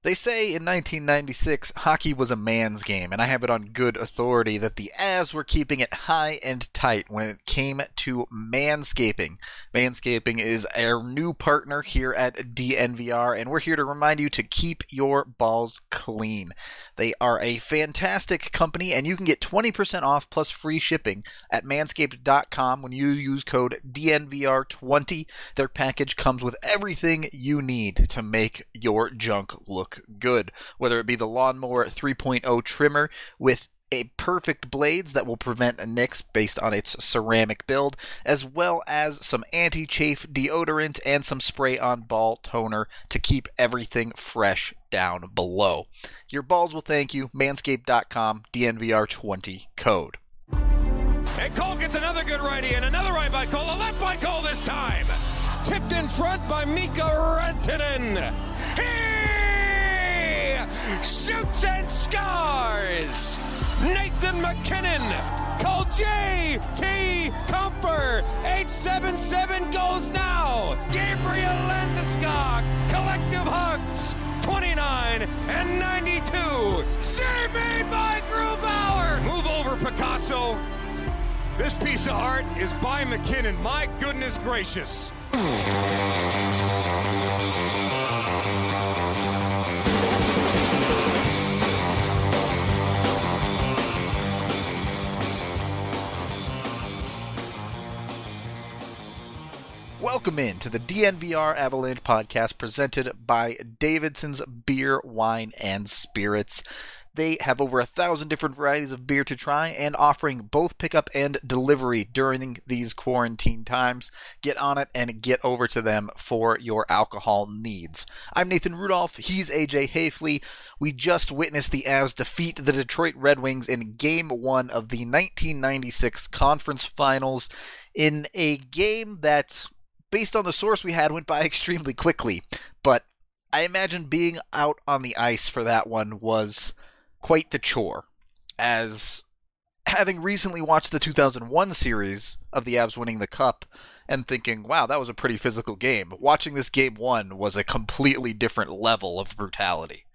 They say in 1996, hockey was a man's game, and I have it on good authority that the Avs were keeping it high and tight when it came to manscaping. Manscaping is our new partner here at DNVR, and we're here to remind you to keep your balls clean. They are a fantastic company, and you can get 20% off plus free shipping at manscaped.com when you use code DNVR20. Their package comes with everything you need to make your junk look good, whether it be the Lawnmower 3.0 trimmer with a perfect blades that will prevent nicks based on its ceramic build, as well as some anti-chafe deodorant and some spray-on ball toner to keep everything fresh down below. Your balls will thank you. Manscaped.com, DNVR20 code. And Cole gets another good righty and another right by Cole, a left by Cole this time. Tipped in front by Mika Rantanen. Shoots and scores! Nathan MacKinnon! Call J.T. Comfer! 877 goes now! Gabriel Landeskog! Collective hugs! 29 and 92! Save made by Grubauer! Move over, Picasso! This piece of art is by MacKinnon. My goodness gracious! Welcome in to the DNVR Avalanche podcast presented by Davidson's Beer, Wine, and Spirits. They have over 1,000 different varieties of beer to try and offering both pickup and delivery during these quarantine times. Get on it and get over to them for your alcohol needs. I'm Nathan Rudolph. He's AJ Hafley. We just witnessed the Avs defeat the Detroit Red Wings in Game 1 of the 1996 Conference Finals in a game that, based on the source we had, went by extremely quickly. But I imagine being out on the ice for that one was quite the chore, as having recently watched the 2001 series of the Avs winning the Cup and thinking, wow, that was a pretty physical game. Watching this Game 1 was a completely different level of brutality.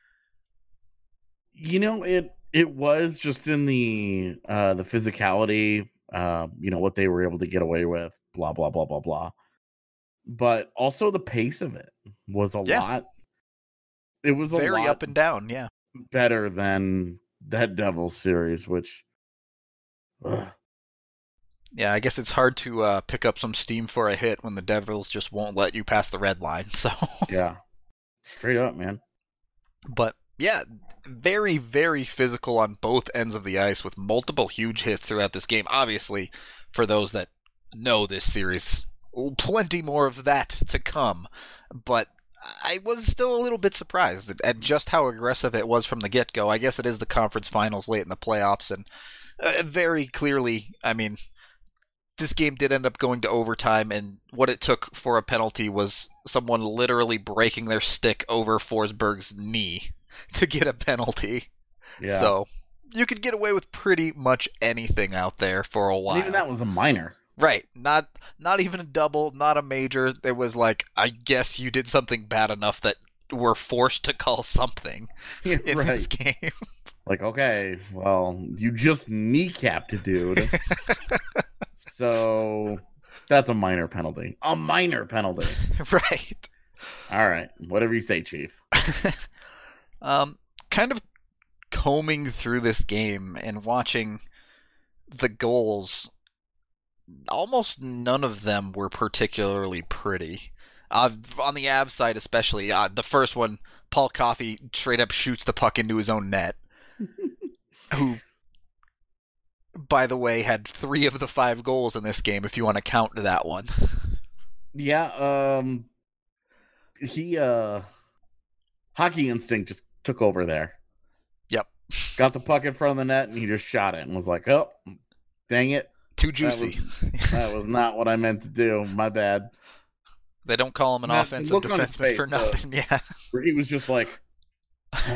You know, it was just in the physicality, what they were able to get away with, blah, blah, blah, blah, blah. But also the pace of it was a lot. It was very lot up and down, yeah. Better than that Devils series, which... Yeah, I guess it's hard to pick up some steam for a hit when the Devils just won't let you pass the red line, so... Yeah, straight up, man. But, yeah, very, very physical on both ends of the ice with multiple huge hits throughout this game. Obviously, for those that know this series, plenty more of that to come, but I was still a little bit surprised at just how aggressive it was from the get-go. I guess it is the conference finals late in the playoffs, and very clearly, I mean, this game did end up going to overtime, and what it took for a penalty was someone literally breaking their stick over Forsberg's knee to get a penalty. Yeah. So you could get away with pretty much anything out there for a while. And even that was a minor. Right, not even a double, not a major. It was like, I guess you did something bad enough that we're forced to call something in this game. Like, okay, well, you just kneecapped a dude. So that's a minor penalty. A minor penalty. Right. All right, whatever you say, Chief. Kind of combing through this game and watching the goals, almost none of them were particularly pretty. On the Avs side especially, the first one, Paul Coffey straight up shoots the puck into his own net, who, by the way, had 3 of the 5 goals in this game, if you want to count that one. Yeah, he, hockey instinct just took over there. Yep. Got the puck in front of the net, and he just shot it, and was like, oh, dang it. Too juicy. That was not what I meant to do. My bad. They don't call him an offensive defenseman for nothing. Yeah. Where he was just like, oh,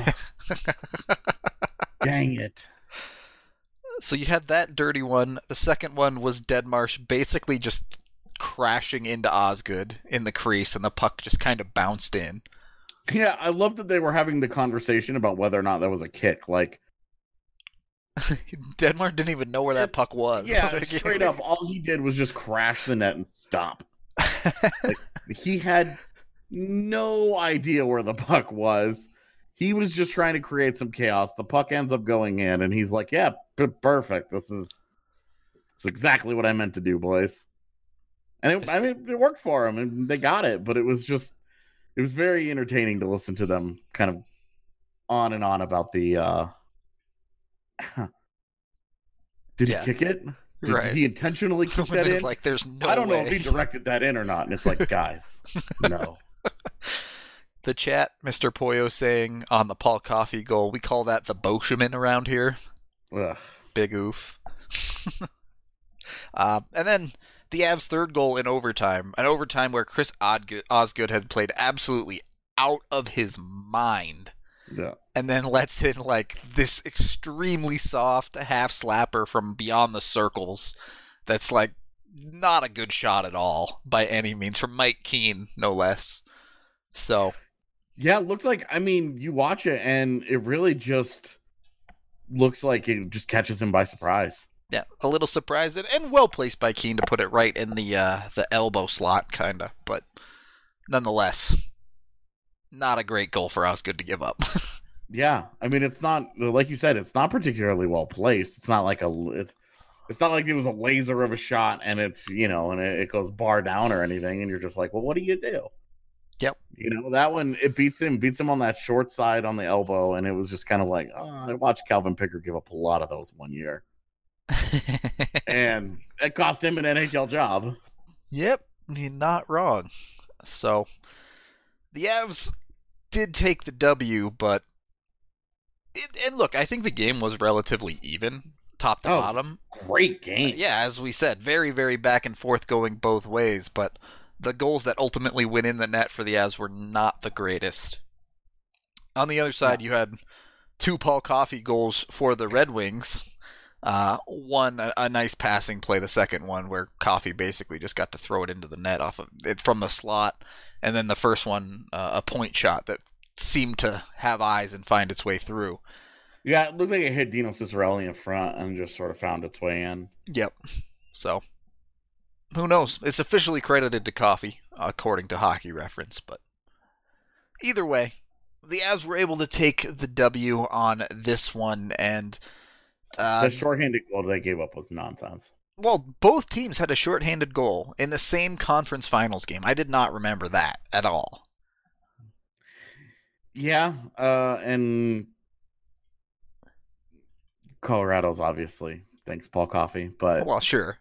dang it. So you had that dirty one. The second one was Deadmarsh basically just crashing into Osgood in the crease, and the puck just kind of bounced in. Yeah, I love that they were having the conversation about whether or not that was a kick. Like, Denmark didn't even know where that puck was. Yeah, straight up, all he did was just crash the net and stop. Like, he had no idea where the puck was. He was just trying to create some chaos. The puck ends up going in, and he's like, yeah, perfect. It's exactly what I meant to do, boys. And it worked for him, and they got it, but it was very entertaining to listen to them kind of on and on about the did he kick it? Did he intentionally kick that in? Like, there's no I don't know way. if he directed that in or not. And it's like, guys, no. The chat, Mr. Poyo saying on the Paul Coffey goal, we call that the Boscheman around here. Ugh. Big oof. And then the Avs' third goal in overtime, an overtime where Chris Osgood had played absolutely out of his mind. Yeah. And then lets in like this extremely soft half slapper from beyond the circles that's like not a good shot at all by any means, from Mike Keane, no less. So yeah, it looks like, I mean, you watch it and it really just looks like it just catches him by surprise. Yeah, a little surprised and well placed by Keane to put it right in the elbow slot, kind of. But nonetheless, not a great goal for Osgood to give up. Yeah, I mean, it's not, like you said, it's not particularly well placed. It's not like it's not like it was a laser of a shot and it's, and it goes bar down or anything. And you're just like, well, what do you do? Yep. That one, it beats him on that short side on the elbow. And it was just kind of like, I watched Calvin Pickard give up a lot of those one year. And it cost him an NHL job. Yep, he's not wrong. So the Avs did take the W, but and look, I think the game was relatively even, top to bottom. Great game. Yeah, as we said, very, very back and forth going both ways, but the goals that ultimately went in the net for the Avs were not the greatest. On the other side, you had two Paul Coffey goals for the Red Wings. One, a nice passing play, the second one where Coffey basically just got to throw it into the net off of it from the slot, and then the first one, a point shot that seemed to have eyes and find its way through. Yeah, it looked like it hit Dino Ciccarelli in front and just sort of found its way in. Yep. So, who knows? It's officially credited to Coffey, according to Hockey Reference, but either way, the Avs were able to take the W on this one, and the shorthanded goal they gave up was nonsense. Well, both teams had a shorthanded goal in the same conference finals game. I did not remember that at all. Yeah, and Colorado's obviously, thanks Paul Coffey, but well, sure.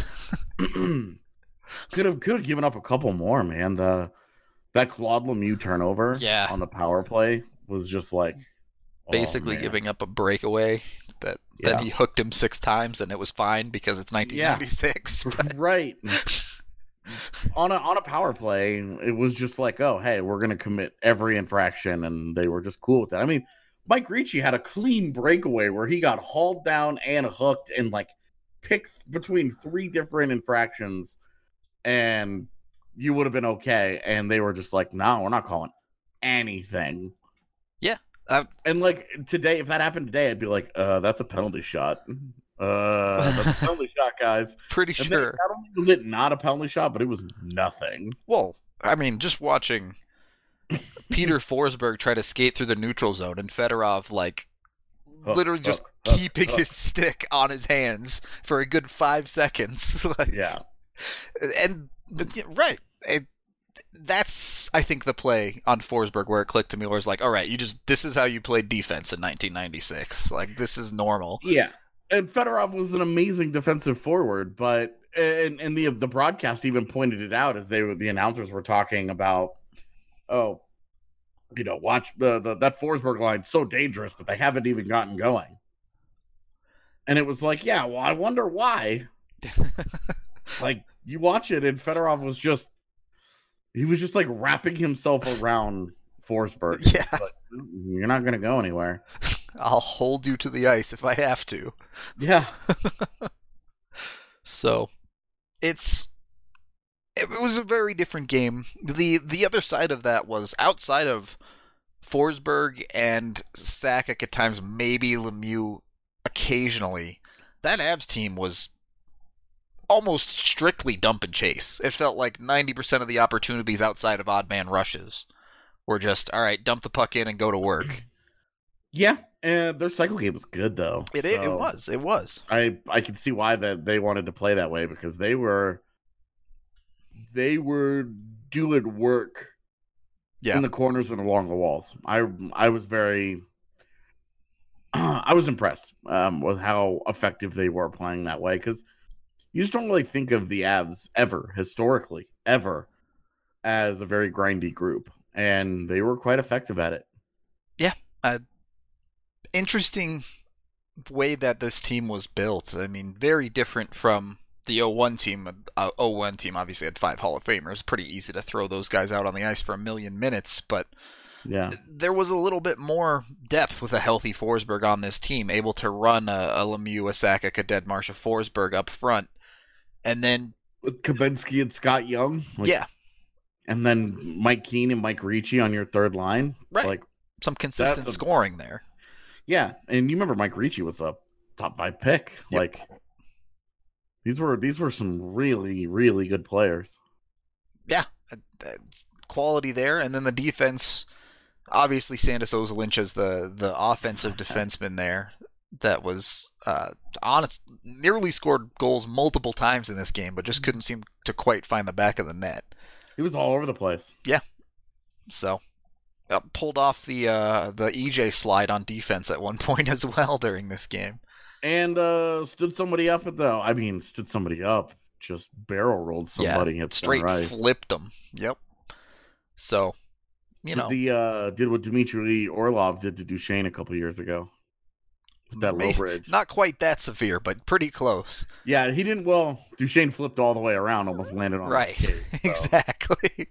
could have given up a couple more, man. That Claude Lemieux turnover on the power play was just like basically giving up a breakaway that then he hooked him 6 times and it was fine because it's 1996. Yeah. Right. On a power play, it was just like, oh, hey, we're going to commit every infraction, and they were just cool with that. I mean, Mike Ricci had a clean breakaway where he got hauled down and hooked and, like, picked between 3 different infractions, and you would have been okay. And they were just like, no, we're not calling anything. Yeah. And, like, today, if that happened today, I'd be like, that's a penalty shot. That's a penalty shot, guys. Pretty sure. Not only was it not a penalty shot, but it was nothing. Well, I mean, just watching Peter Forsberg try to skate through the neutral zone and Fedorov, like, literally just keeping his stick on his hands for a good 5 seconds. Like, yeah. And, right. That's, I think, the play on Forsberg where it clicked to me where it's like, all right, this is how you played defense in 1996. Like, this is normal. Yeah. And Fedorov was an amazing defensive forward, but and the broadcast even pointed it out as the announcers were talking about, watch that Forsberg line, so dangerous, but they haven't even gotten going. And it was like, yeah, well, I wonder why. Like, you watch it, and Fedorov was just like wrapping himself around Forsberg. Yeah, like, you're not gonna go anywhere. I'll hold you to the ice if I have to. Yeah. So, it was a very different game. The other side of that was outside of Forsberg and Sakic at times, maybe Lemieux occasionally, that Avs team was almost strictly dump and chase. It felt like 90% of the opportunities outside of odd man rushes were just, all right, dump the puck in and go to work. Yeah, and their cycle game was good, though. It was. I can see why that they wanted to play that way, because they were doing work in the corners and along the walls. I was very I was impressed with how effective they were playing that way, because you just don't really think of the Avs historically as a very grindy group, and they were quite effective at it. Yeah, interesting way that this team was built. I mean, very different from the 01 team. 01 team obviously had 5 Hall of Famers. Pretty easy to throw those guys out on the ice for a million minutes, but yeah, there was a little bit more depth with a healthy Forsberg on this team, able to run a Lemieux, a Sakic, a Deadmarsh, a Forsberg up front, and then with Kabinski and Scott Young, and then Mike Keane and Mike Ricci on your third line, right? Like some consistent scoring there. Yeah, and you remember Mike Ricci was a top 5 pick. Yep. Like these were some really, really good players. Yeah, quality there, and then the defense. Obviously, Sandis Ozolinsh as the offensive defenseman there. That was nearly scored goals multiple times in this game, but just couldn't seem to quite find the back of the net. He was all over the place. Yeah, so pulled off the EJ slide on defense at one point as well during this game, and stood somebody up just barrel rolled somebody. Yeah, straight flipped them. Yep. So, did what Dmitry Orlov did to Duchesne a couple years ago. That low bridge. Not quite that severe, but pretty close. Yeah, he didn't. Well, Duchesne flipped all the way around, almost landed on right. His skate, so. Exactly.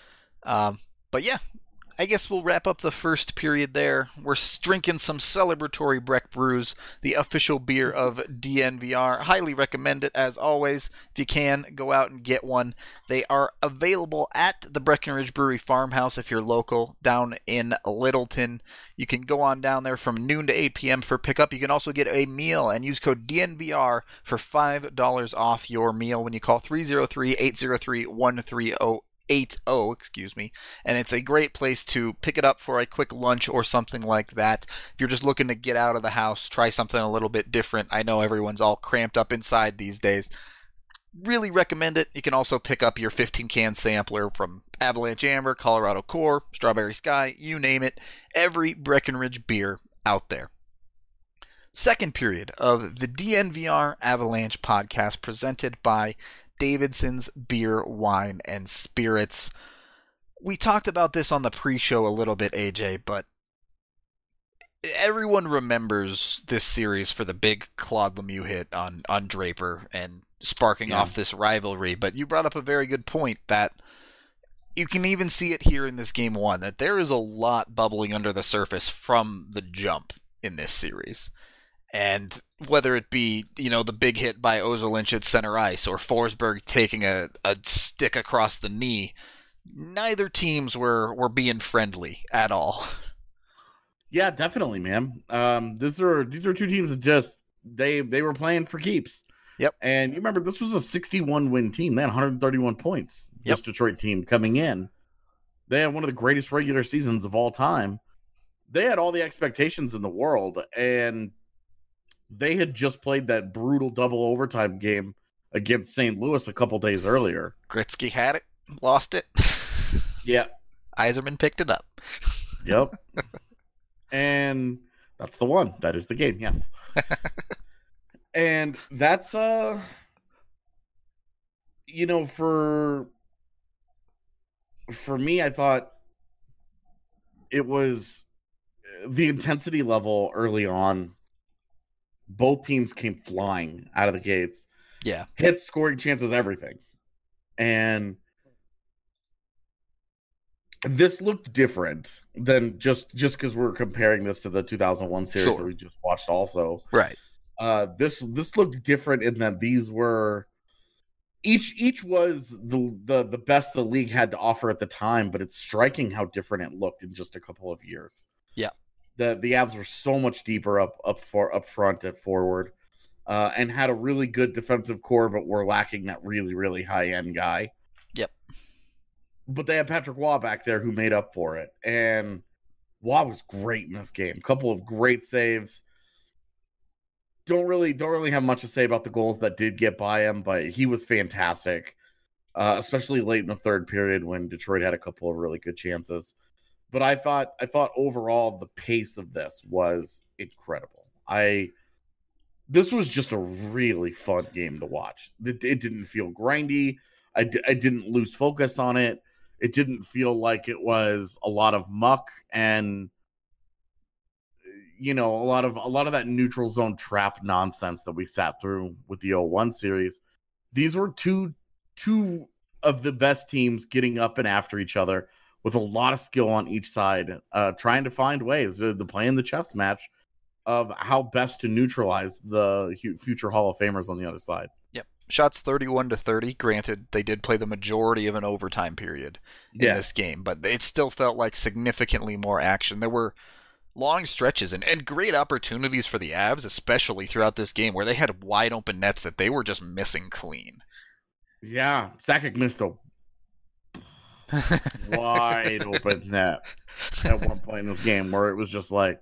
But yeah, I guess we'll wrap up the first period there. We're drinking some celebratory Breck Brews, the official beer of DNVR. Highly recommend it, as always. If you can, go out and get one. They are available at the Breckenridge Brewery Farmhouse if you're local, down in Littleton. You can go on down there from noon to 8 p.m. for pickup. You can also get a meal and use code DNVR for $5 off your meal when you call 303-803-130. 80, and it's a great place to pick it up for a quick lunch or something like that. If you're just looking to get out of the house, try something a little bit different. I know everyone's all cramped up inside these days. Really recommend it. You can also pick up your 15-can sampler from Avalanche Amber, Colorado Core, Strawberry Sky, you name it. Every Breckenridge beer out there. Second period of the DNVR Avalanche podcast presented by Davidson's Beer, Wine, and Spirits. We talked about this on the pre-show a little bit, AJ, but everyone remembers this series for the big Claude Lemieux hit on Draper and sparking off this rivalry. But you brought up a very good point that you can even see it here in this game one, that there is a lot bubbling under the surface from the jump in this series. And whether it be, the big hit by Ozolinsh at center ice or Forsberg taking a stick across the knee, neither teams were being friendly at all. Yeah, definitely, man. These are two teams that just they were playing for keeps. Yep. And you remember this was a 61-win team. They had 131 points. This Detroit team coming in. They had one of the greatest regular seasons of all time. They had all the expectations in the world, and they had just played that brutal double overtime game against St. Louis a couple days earlier. Gretzky had it, lost it. Yeah. Yzerman picked it up. Yep. And that's the one. That is the game, yes. And that's, for me, I thought it was the intensity level early on. Both teams came flying out of the gates. Yeah. Hits, scoring chances, everything. And this looked different than just because we're comparing this to the 2001 series that we just watched also. Right. This looked different in that these were each was the best the league had to offer at the time, but it's striking how different it looked in just a couple of years. Yeah. The Avs were so much deeper up front at forward, and had a really good defensive core, but were lacking that really, really high end guy. Yep. But they had Patrick Waugh back there who made up for it, and Waugh was great in this game. Couple of great saves. Don't really have much to say about the goals that did get by him, but he was fantastic, especially late in the third period when Detroit had a couple of really good chances. But I thought overall the pace of this was incredible. This was just a really fun game to watch. It didn't feel grindy. I didn't lose focus on it. It didn't feel like it was a lot of muck and a lot of that neutral zone trap nonsense that we sat through with the 0-1 series. These were two of the best teams getting up and after each other with a lot of skill on each side, trying to find ways to play in the chess match of how best to neutralize the future Hall of Famers on the other side. Yep. Shots 31-30. Granted, they did play the majority of an overtime period in this game, but it still felt like significantly more action. There were long stretches and great opportunities for the Avs, especially throughout this game, where they had wide open nets that they were just missing clean. Yeah, Sakic missed a wide open net at one point in this game where it was just like,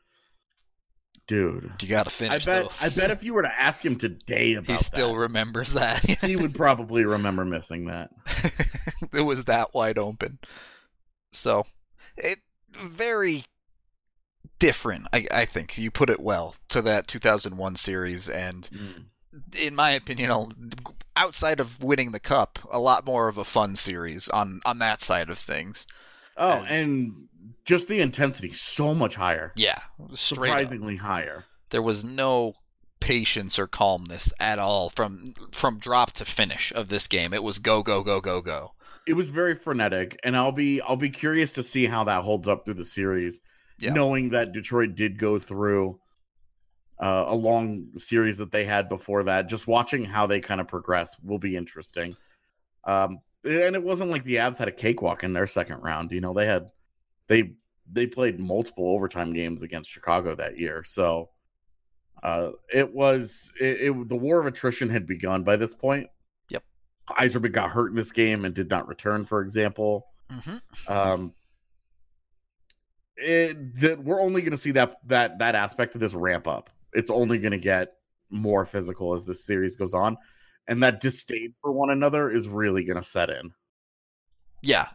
dude, you gotta finish. I bet if you were to ask him today about he still remembers that. He would probably remember missing that. It was that wide open. So it very different, I think. You put it well, to that 2001 series, and in my opinion, outside of winning the cup, a lot more of a fun series on that side of things. Oh, and just the intensity so much higher. Yeah, surprisingly higher. There was no patience or calmness at all from drop to finish of this game. It was go go go go go. It was very frenetic, and I'll be curious to see how that holds up through the series. Yeah. Knowing that Detroit did go through a long series that they had before that, just watching how they kind of progress will be interesting. And it wasn't like the Avs had a cakewalk in their second round. They played multiple overtime games against Chicago that year. So the war of attrition had begun by this point. Yep. Yzerman got hurt in this game and did not return, for example. Mm-hmm. We're only going to see that aspect of this ramp up. It's only going to get more physical as this series goes on, and that disdain for one another is really going to set in. Yeah,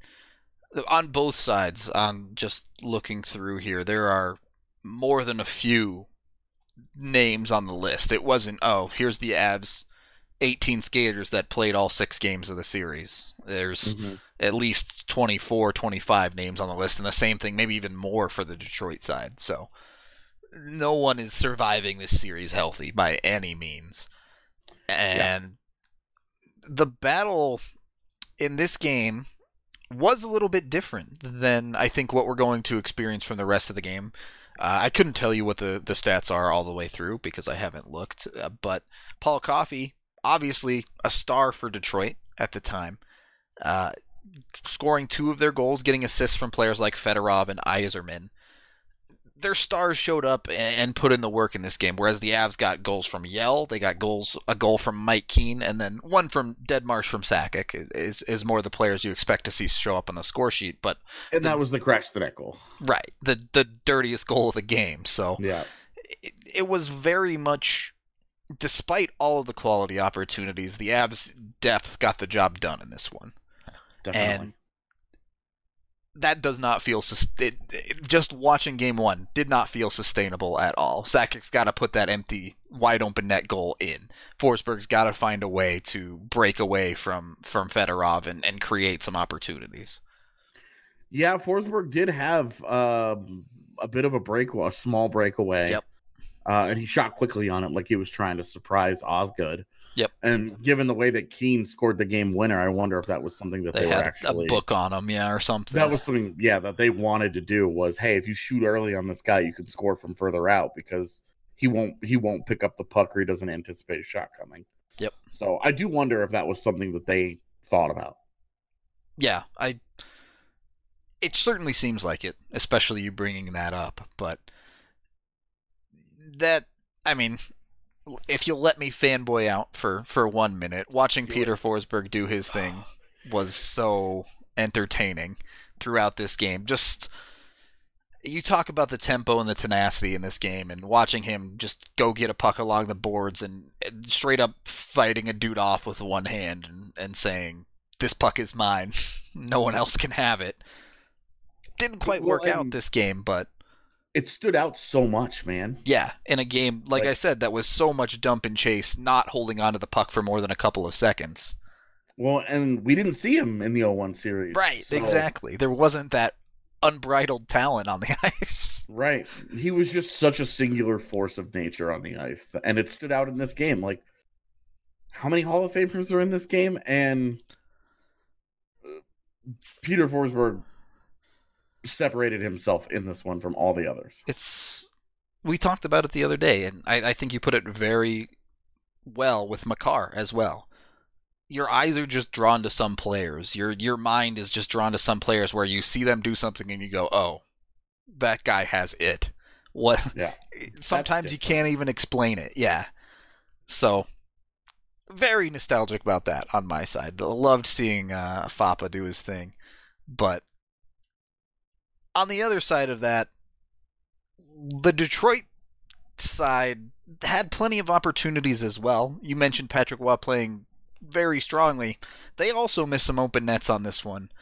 on both sides. Just looking through here, there are more than a few names on the list. It wasn't, here's the Avs 18 skaters that played all 6 games of the series. There's at least 24, 25 names on the list, and the same thing, maybe even more for the Detroit side. So no one is surviving this series healthy by any means. And the battle in this game was a little bit different than I think what we're going to experience from the rest of the game. I couldn't tell you what the stats are all the way through because I haven't looked, but Paul Coffey, obviously a star for Detroit at the time, scoring 2 of their goals, getting assists from players like Fedorov and Yzerman. Their stars showed up and put in the work in this game, whereas the Avs got goals from Yell, they got a goal from Mike Keane, and then one from Deadmarsh from Sakic is more the players you expect to see show up on the score sheet. And that was the crash to that goal. Right, the dirtiest goal of the game. So yeah, it was very much, despite all of the quality opportunities, the Avs' depth got the job done in this one. Definitely. And that does not feel just watching game 1 did not feel sustainable at all. Sakic's got to put that empty, wide open net goal in. Forsberg's got to find a way to break away from Fedorov and create some opportunities. Yeah, Forsberg did have a bit of a small breakaway. Yep. And he shot quickly on it like he was trying to surprise Osgood. Yep. And given the way that Keane scored the game winner, I wonder if that was something that they were had actually a book on him, or something. That was something, that they wanted to do was, hey, if you shoot early on this guy, you can score from further out because he won't pick up the puck or he doesn't anticipate a shot coming. Yep. So I do wonder if that was something that they thought about. Yeah, it certainly seems like it, especially you bringing that up. But that, I mean, if you'll let me fanboy out for 1 minute, watching Peter Forsberg do his thing was so entertaining throughout this game. Just, you talk about the tempo and the tenacity in this game, and watching him just go get a puck along the boards and straight up fighting a dude off with one hand and saying, "This puck is mine. No one else can have it." Didn't quite work out this game, but it stood out so much, man. Yeah, in a game, like I said, that was so much dump and chase, not holding on to the puck for more than a couple of seconds. Well, and we didn't see him in the 0-1 series. Right, so. Exactly. There wasn't that unbridled talent on the ice. Right. He was just such a singular force of nature on the ice, and it stood out in this game. Like, how many Hall of Famers are in this game? And Peter Forsberg separated himself in this one from all the others. We talked about it the other day, and I think you put it very well with Makar as well. Your eyes are just drawn to some players. Your mind is just drawn to some players where you see them do something and you go, "Oh, that guy has it." What? Yeah. Sometimes you can't even explain it. Yeah. So, very nostalgic about that on my side. Loved seeing Fapa do his thing, but on the other side of that, the Detroit side had plenty of opportunities as well. You mentioned Patrick Waugh playing very strongly. They also missed some open nets on this one.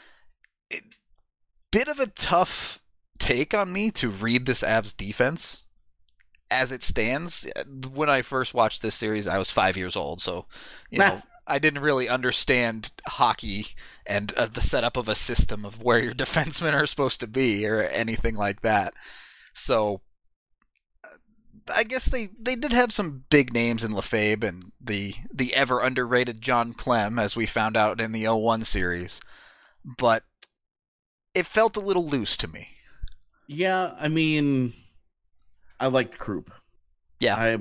Bit of a tough take on me to read this Avs defense as it stands. When I first watched this series, I was 5 years old, so you know, I didn't really understand hockey and the setup of a system of where your defensemen are supposed to be or anything like that. So I guess they did have some big names in Lefebvre and the ever underrated John Clem, as we found out in the 0-1 series. But it felt a little loose to me. Yeah, I mean, I liked Krupp. Yeah. I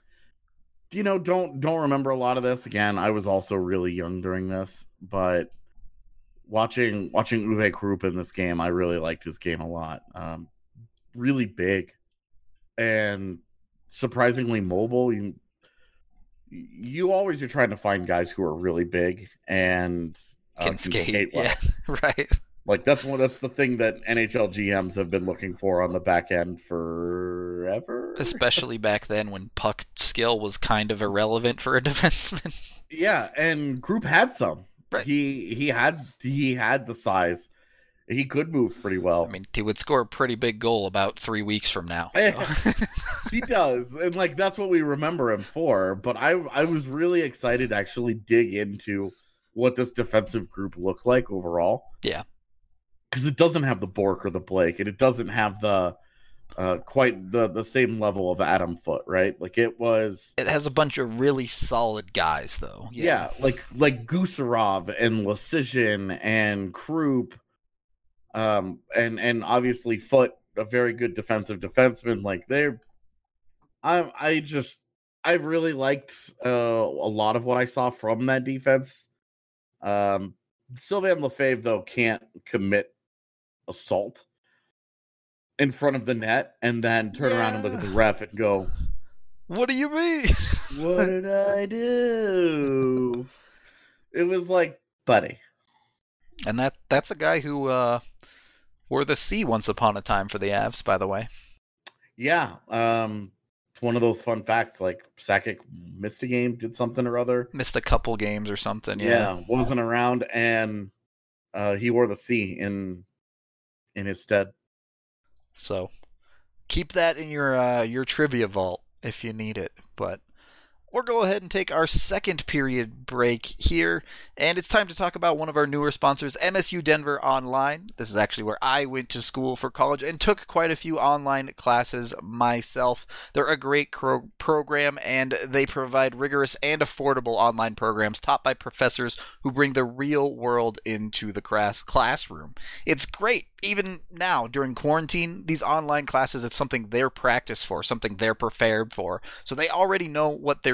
don't remember a lot of this. Again, I was also really young during this, but watching Uwe Krupp in this game, I really liked his game a lot. Really big and surprisingly mobile. You always are trying to find guys who are really big and can skate well. Yeah, right. Like that's the thing that NHL GMs have been looking for on the back end forever. Especially back then when puck skill was kind of irrelevant for a defenseman. Yeah, and Krupp had some. Right. He had the size. He could move pretty well. I mean, he would score a pretty big goal about 3 weeks from now. So. He does. And like that's what we remember him for. But I was really excited to actually dig into what this defensive group looked like overall. Yeah. Because it doesn't have the Bork or the Blake, and it doesn't have the quite the same level of Adam Foote, right? Like it has a bunch of really solid guys though. Yeah, like Gusarov and Lecision and Krupp. And obviously Foote, a very good defensive defenseman. Like I really liked a lot of what I saw from that defense. Sylvain Lefebvre though can't commit assault in front of the net and then turn around and look at the ref and go, "What do you mean? What did I do?" It was like, buddy. And that's a guy who wore the C once upon a time for the Avs, by the way. Yeah. It's one of those fun facts. Like Sakic missed a game, did something or other. Missed a couple games or something. Yeah. Wasn't around, and he wore the C in his stead. So keep that in your trivia vault if you need it. But we'll go ahead and take our second period break here, and it's time to talk about one of our newer sponsors, MSU Denver Online. This is actually where I went to school for college and took quite a few online classes myself. They're a great program, and they provide rigorous and affordable online programs taught by professors who bring the real world into the classroom. It's great. Even now, during quarantine, these online classes, it's something they're practiced for, something they're prepared for. So they already know what they're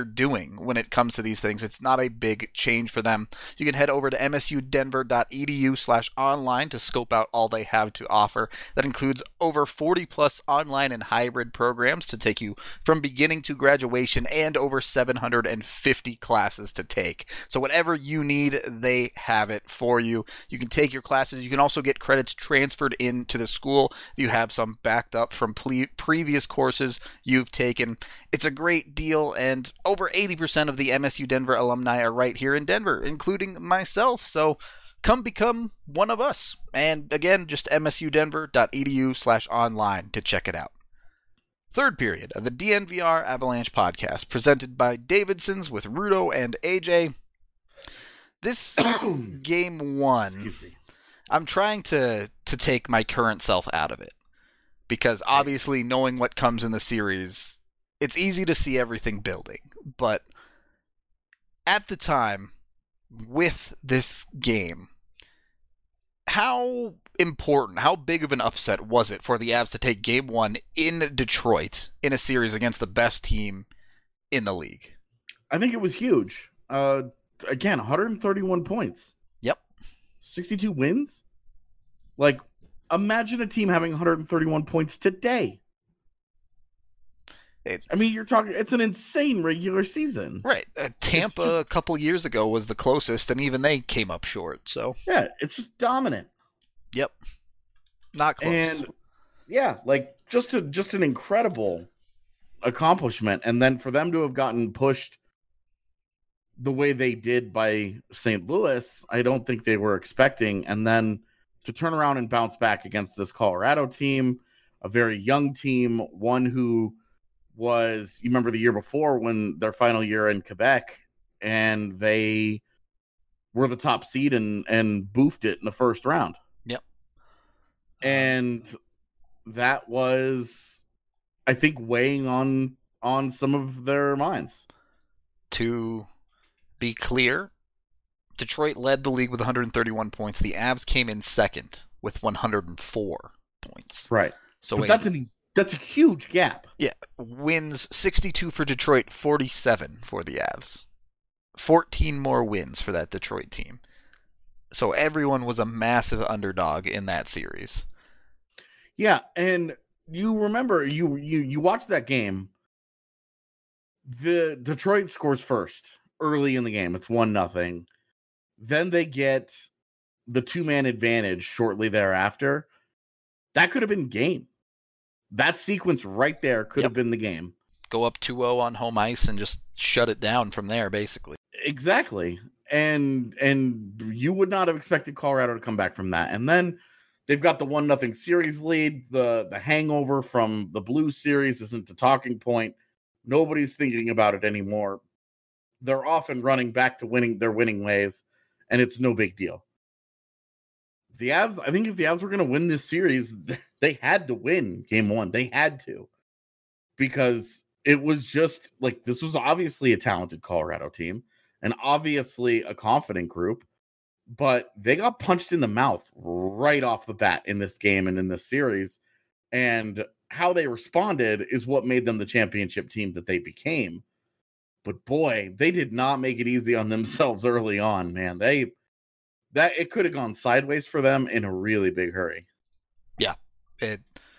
doing when it comes to these things. It's not a big change for them. You can head over to msudenver.edu/online to scope out all they have to offer. That includes over 40 plus online and hybrid programs to take you from beginning to graduation and over 750 classes to take. So whatever you need, they have it for you. You can take your classes. You can also get credits transferred into the school. You have some backed up from previous courses you've taken. It's a great deal, and over 80% of the MSU Denver alumni are right here in Denver, including myself. So come become one of us. And again, just msudenver.edu/online to check it out. Third period of the DNVR Avalanche podcast, presented by Davidson's with Rudo and AJ. This game one, I'm trying to take my current self out of it, because obviously knowing what comes in the series, it's easy to see everything building. But at the time, with this game, how important, how big of an upset was it for the Avs to take game one in Detroit in a series against the best team in the league? I think it was huge. Again, 131 points. Yep. 62 wins. Like, imagine a team having 131 points today. You're talking, it's an insane regular season. Right. Tampa a couple years ago was the closest, and even they came up short. So yeah, it's just dominant. Yep. Not close. And yeah, like just an incredible accomplishment. And then for them to have gotten pushed the way they did by St. Louis, I don't think they were expecting. And then to turn around and bounce back against this Colorado team, a very young team, one who was, you remember the year before when their final year in Quebec, and they were the top seed and boofed it in the first round. Yep. And that was, I think, weighing on some of their minds. To be clear, Detroit led the league with 131 points. The Avs came in second with 104 points. Right. So but that's a huge gap. Yeah. Wins 62 for Detroit, 47 for the Avs. 14 more wins for that Detroit team. So everyone was a massive underdog in that series. Yeah, and you remember, you watched that game. The Detroit scores first early in the game. It's 1-0. Then they get the 2-man advantage shortly thereafter. That could have been game. That sequence right there could have been the game. Go up 2-0 on home ice and just shut it down from there, basically. Exactly. And you would not have expected Colorado to come back from that. And then they've got the 1-0 series lead. The hangover from the Blues series isn't the talking point. Nobody's thinking about it anymore. They're off and running back to their winning ways, and it's no big deal. The Avs, I think if the Avs were going to win this series, they had to win game one. They had to, because it was just like, this was obviously a talented Colorado team and obviously a confident group, but they got punched in the mouth right off the bat in this game and in this series. And how they responded is what made them the championship team that they became. But boy, they did not make it easy on themselves early on, man. It could have gone sideways for them in a really big hurry. Yeah, it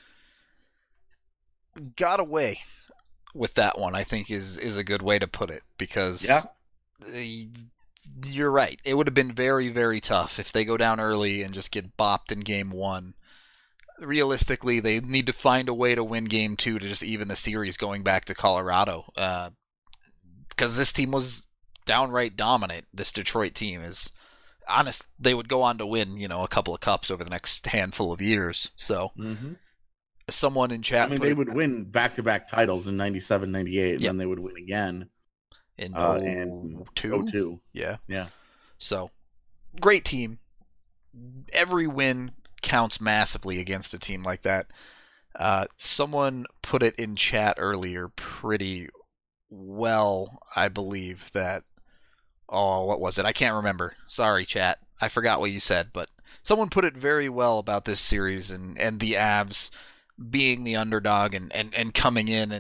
got away with that one, I think is a good way to put it, because you're right. It would have been very, very tough if they go down early and just get bopped in game one. Realistically, they need to find a way to win game two to just even the series going back to Colorado, because this team was downright dominant. This Detroit team is honest. They would go on to win, a couple of cups over the next handful of years. So someone in chat, they would win back-to-back titles in 97, 98, and then they would win again in 02. Yeah. Yeah. So great team. Every win counts massively against a team like that. Someone put it in chat earlier pretty well, I believe, that, what was it? I can't remember. Sorry, chat. I forgot what you said, but someone put it very well about this series and the Avs being the underdog and coming in and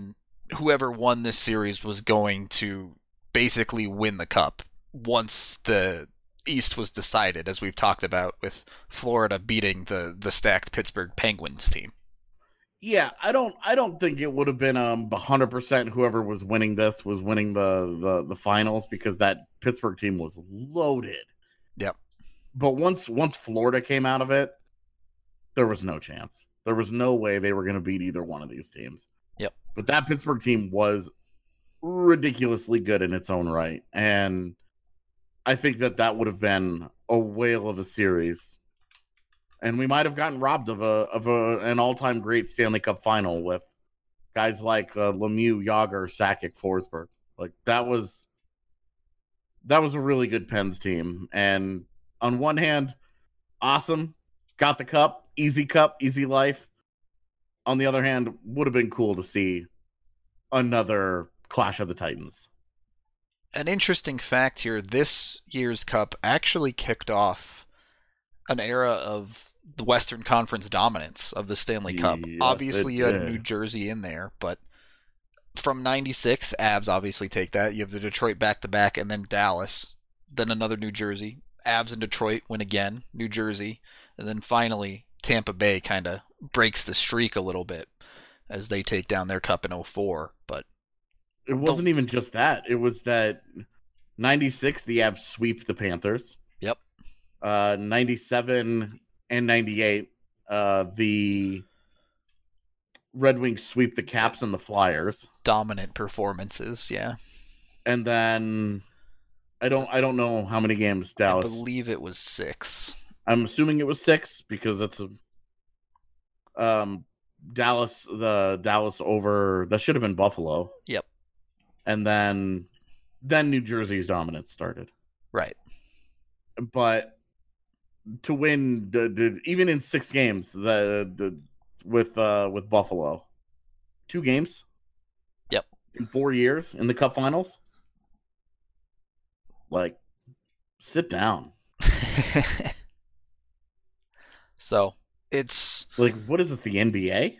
whoever won this series was going to basically win the cup once the East was decided, as we've talked about with Florida beating the stacked Pittsburgh Penguins team. Yeah, I don't think it would have been 100% whoever was winning this was winning the finals, because that Pittsburgh team was loaded. Yep. But once Florida came out of it, there was no chance. There was no way they were going to beat either one of these teams. Yep. But that Pittsburgh team was ridiculously good in its own right, and I think that would have been a whale of a series. And we might have gotten robbed of an all-time great Stanley Cup final with guys like Lemieux, Yager, Sakic, Forsberg. Like that was a really good Pens team. And on one hand, awesome, got the cup, easy life. On the other hand, would have been cool to see another Clash of the Titans. An interesting fact here, this year's cup actually kicked off an era of the Western Conference dominance of the Stanley Cup. Yes, obviously, you had New Jersey in there, but from 96, Avs obviously take that. You have the Detroit back-to-back, and then Dallas, then another New Jersey. Avs and Detroit win again, New Jersey, and then finally Tampa Bay kind of breaks the streak a little bit as they take down their cup in 04. But it wasn't even just that. It was that 96, the Avs sweep the Panthers. Yep. 97 and 98, the Red Wings sweep the Caps and the Flyers. Dominant performances, yeah. And then I don't know how many games Dallas. I believe it was 6. I'm assuming it was 6 because that's a Dallas over. That should have been Buffalo. Yep. And then New Jersey's dominance started. Right. But to win even in 6 games with Buffalo, 2 games. Yep. In 4 years in the Cup Finals. Like, sit down. So it's like, what is this? The NBA?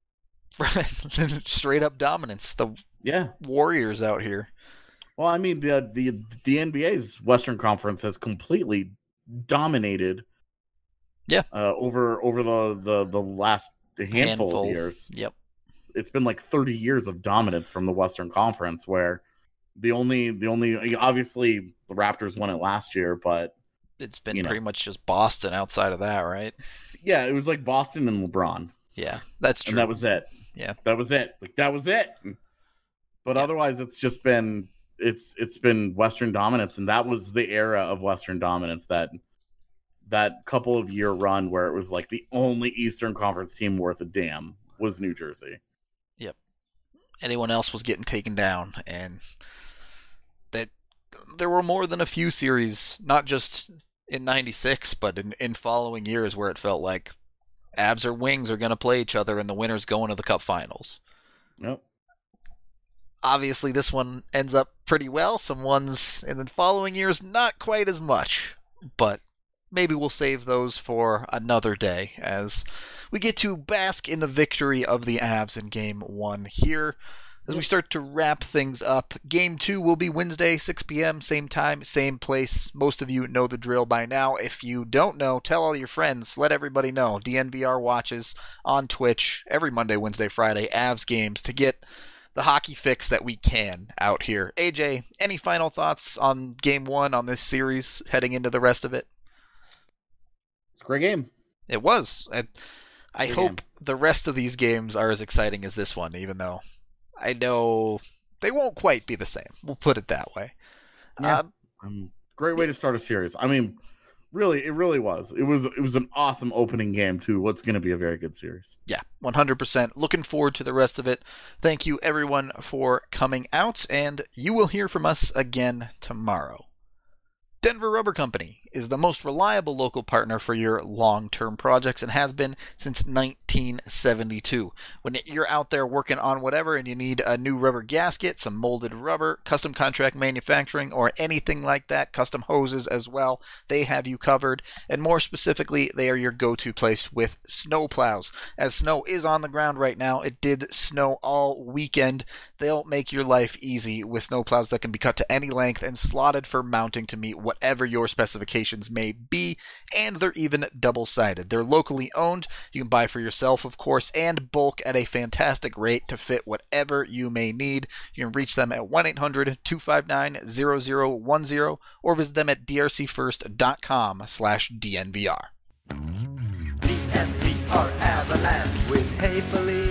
Straight up dominance. The Warriors out here. Well, I mean, the NBA's Western Conference has completely dominated. Yeah. Over the last handful of years. Yep. It's been like 30 years of dominance from the Western Conference, where the only obviously the Raptors won it last year, but it's been pretty much just Boston outside of that, right? Yeah, it was like Boston and LeBron. Yeah, that's true. And that was it. Yeah. That was it. Like, that was it. But otherwise, it's just been it's been Western dominance, and that was the era of Western dominance, that couple of year run where it was like the only Eastern Conference team worth a damn was New Jersey. Yep. Anyone else was getting taken down, and that there were more than a few series, not just in 96, but in following years where it felt like Avs or Wings are going to play each other and the winner's going to the Cup Finals. Nope. Obviously, this one ends up pretty well. Some ones in the following years, not quite as much, but maybe we'll save those for another day as we get to bask in the victory of the Avs in Game 1 here. As we start to wrap things up, Game 2 will be Wednesday, 6 p.m., same time, same place. Most of you know the drill by now. If you don't know, tell all your friends. Let everybody know. DNVR watches on Twitch every Monday, Wednesday, Friday, Avs games to get the hockey fix that we can out here. AJ, any final thoughts on Game 1 on this series heading into the rest of it? It's a great game. It was. I hope the rest of these games are as exciting as this one, even though I know they won't quite be the same. We'll put it that way. Yeah. Great way to start a series. I mean, really, it really was. It was an awesome opening game to what's going to be a very good series. Yeah, 100%. Looking forward to the rest of it. Thank you, everyone, for coming out, and you will hear from us again tomorrow. Denver Rubber Company is the most reliable local partner for your long-term projects and has been since 1972. When you're out there working on whatever and you need a new rubber gasket, some molded rubber, custom contract manufacturing, or anything like that, custom hoses as well, they have you covered. And more specifically, they are your go-to place with snow plows. As snow is on the ground right now, it did snow all weekend. They'll make your life easy with snow plows that can be cut to any length and slotted for mounting to meet whatever your specifications may be, and they're even double-sided. They're locally owned. You can buy for yourself, of course, and bulk at a fantastic rate to fit whatever you may need. You can reach them at 1-800-259-0010 or visit them at drcfirst.com/DNVR. DNVR Avalanche with Haefele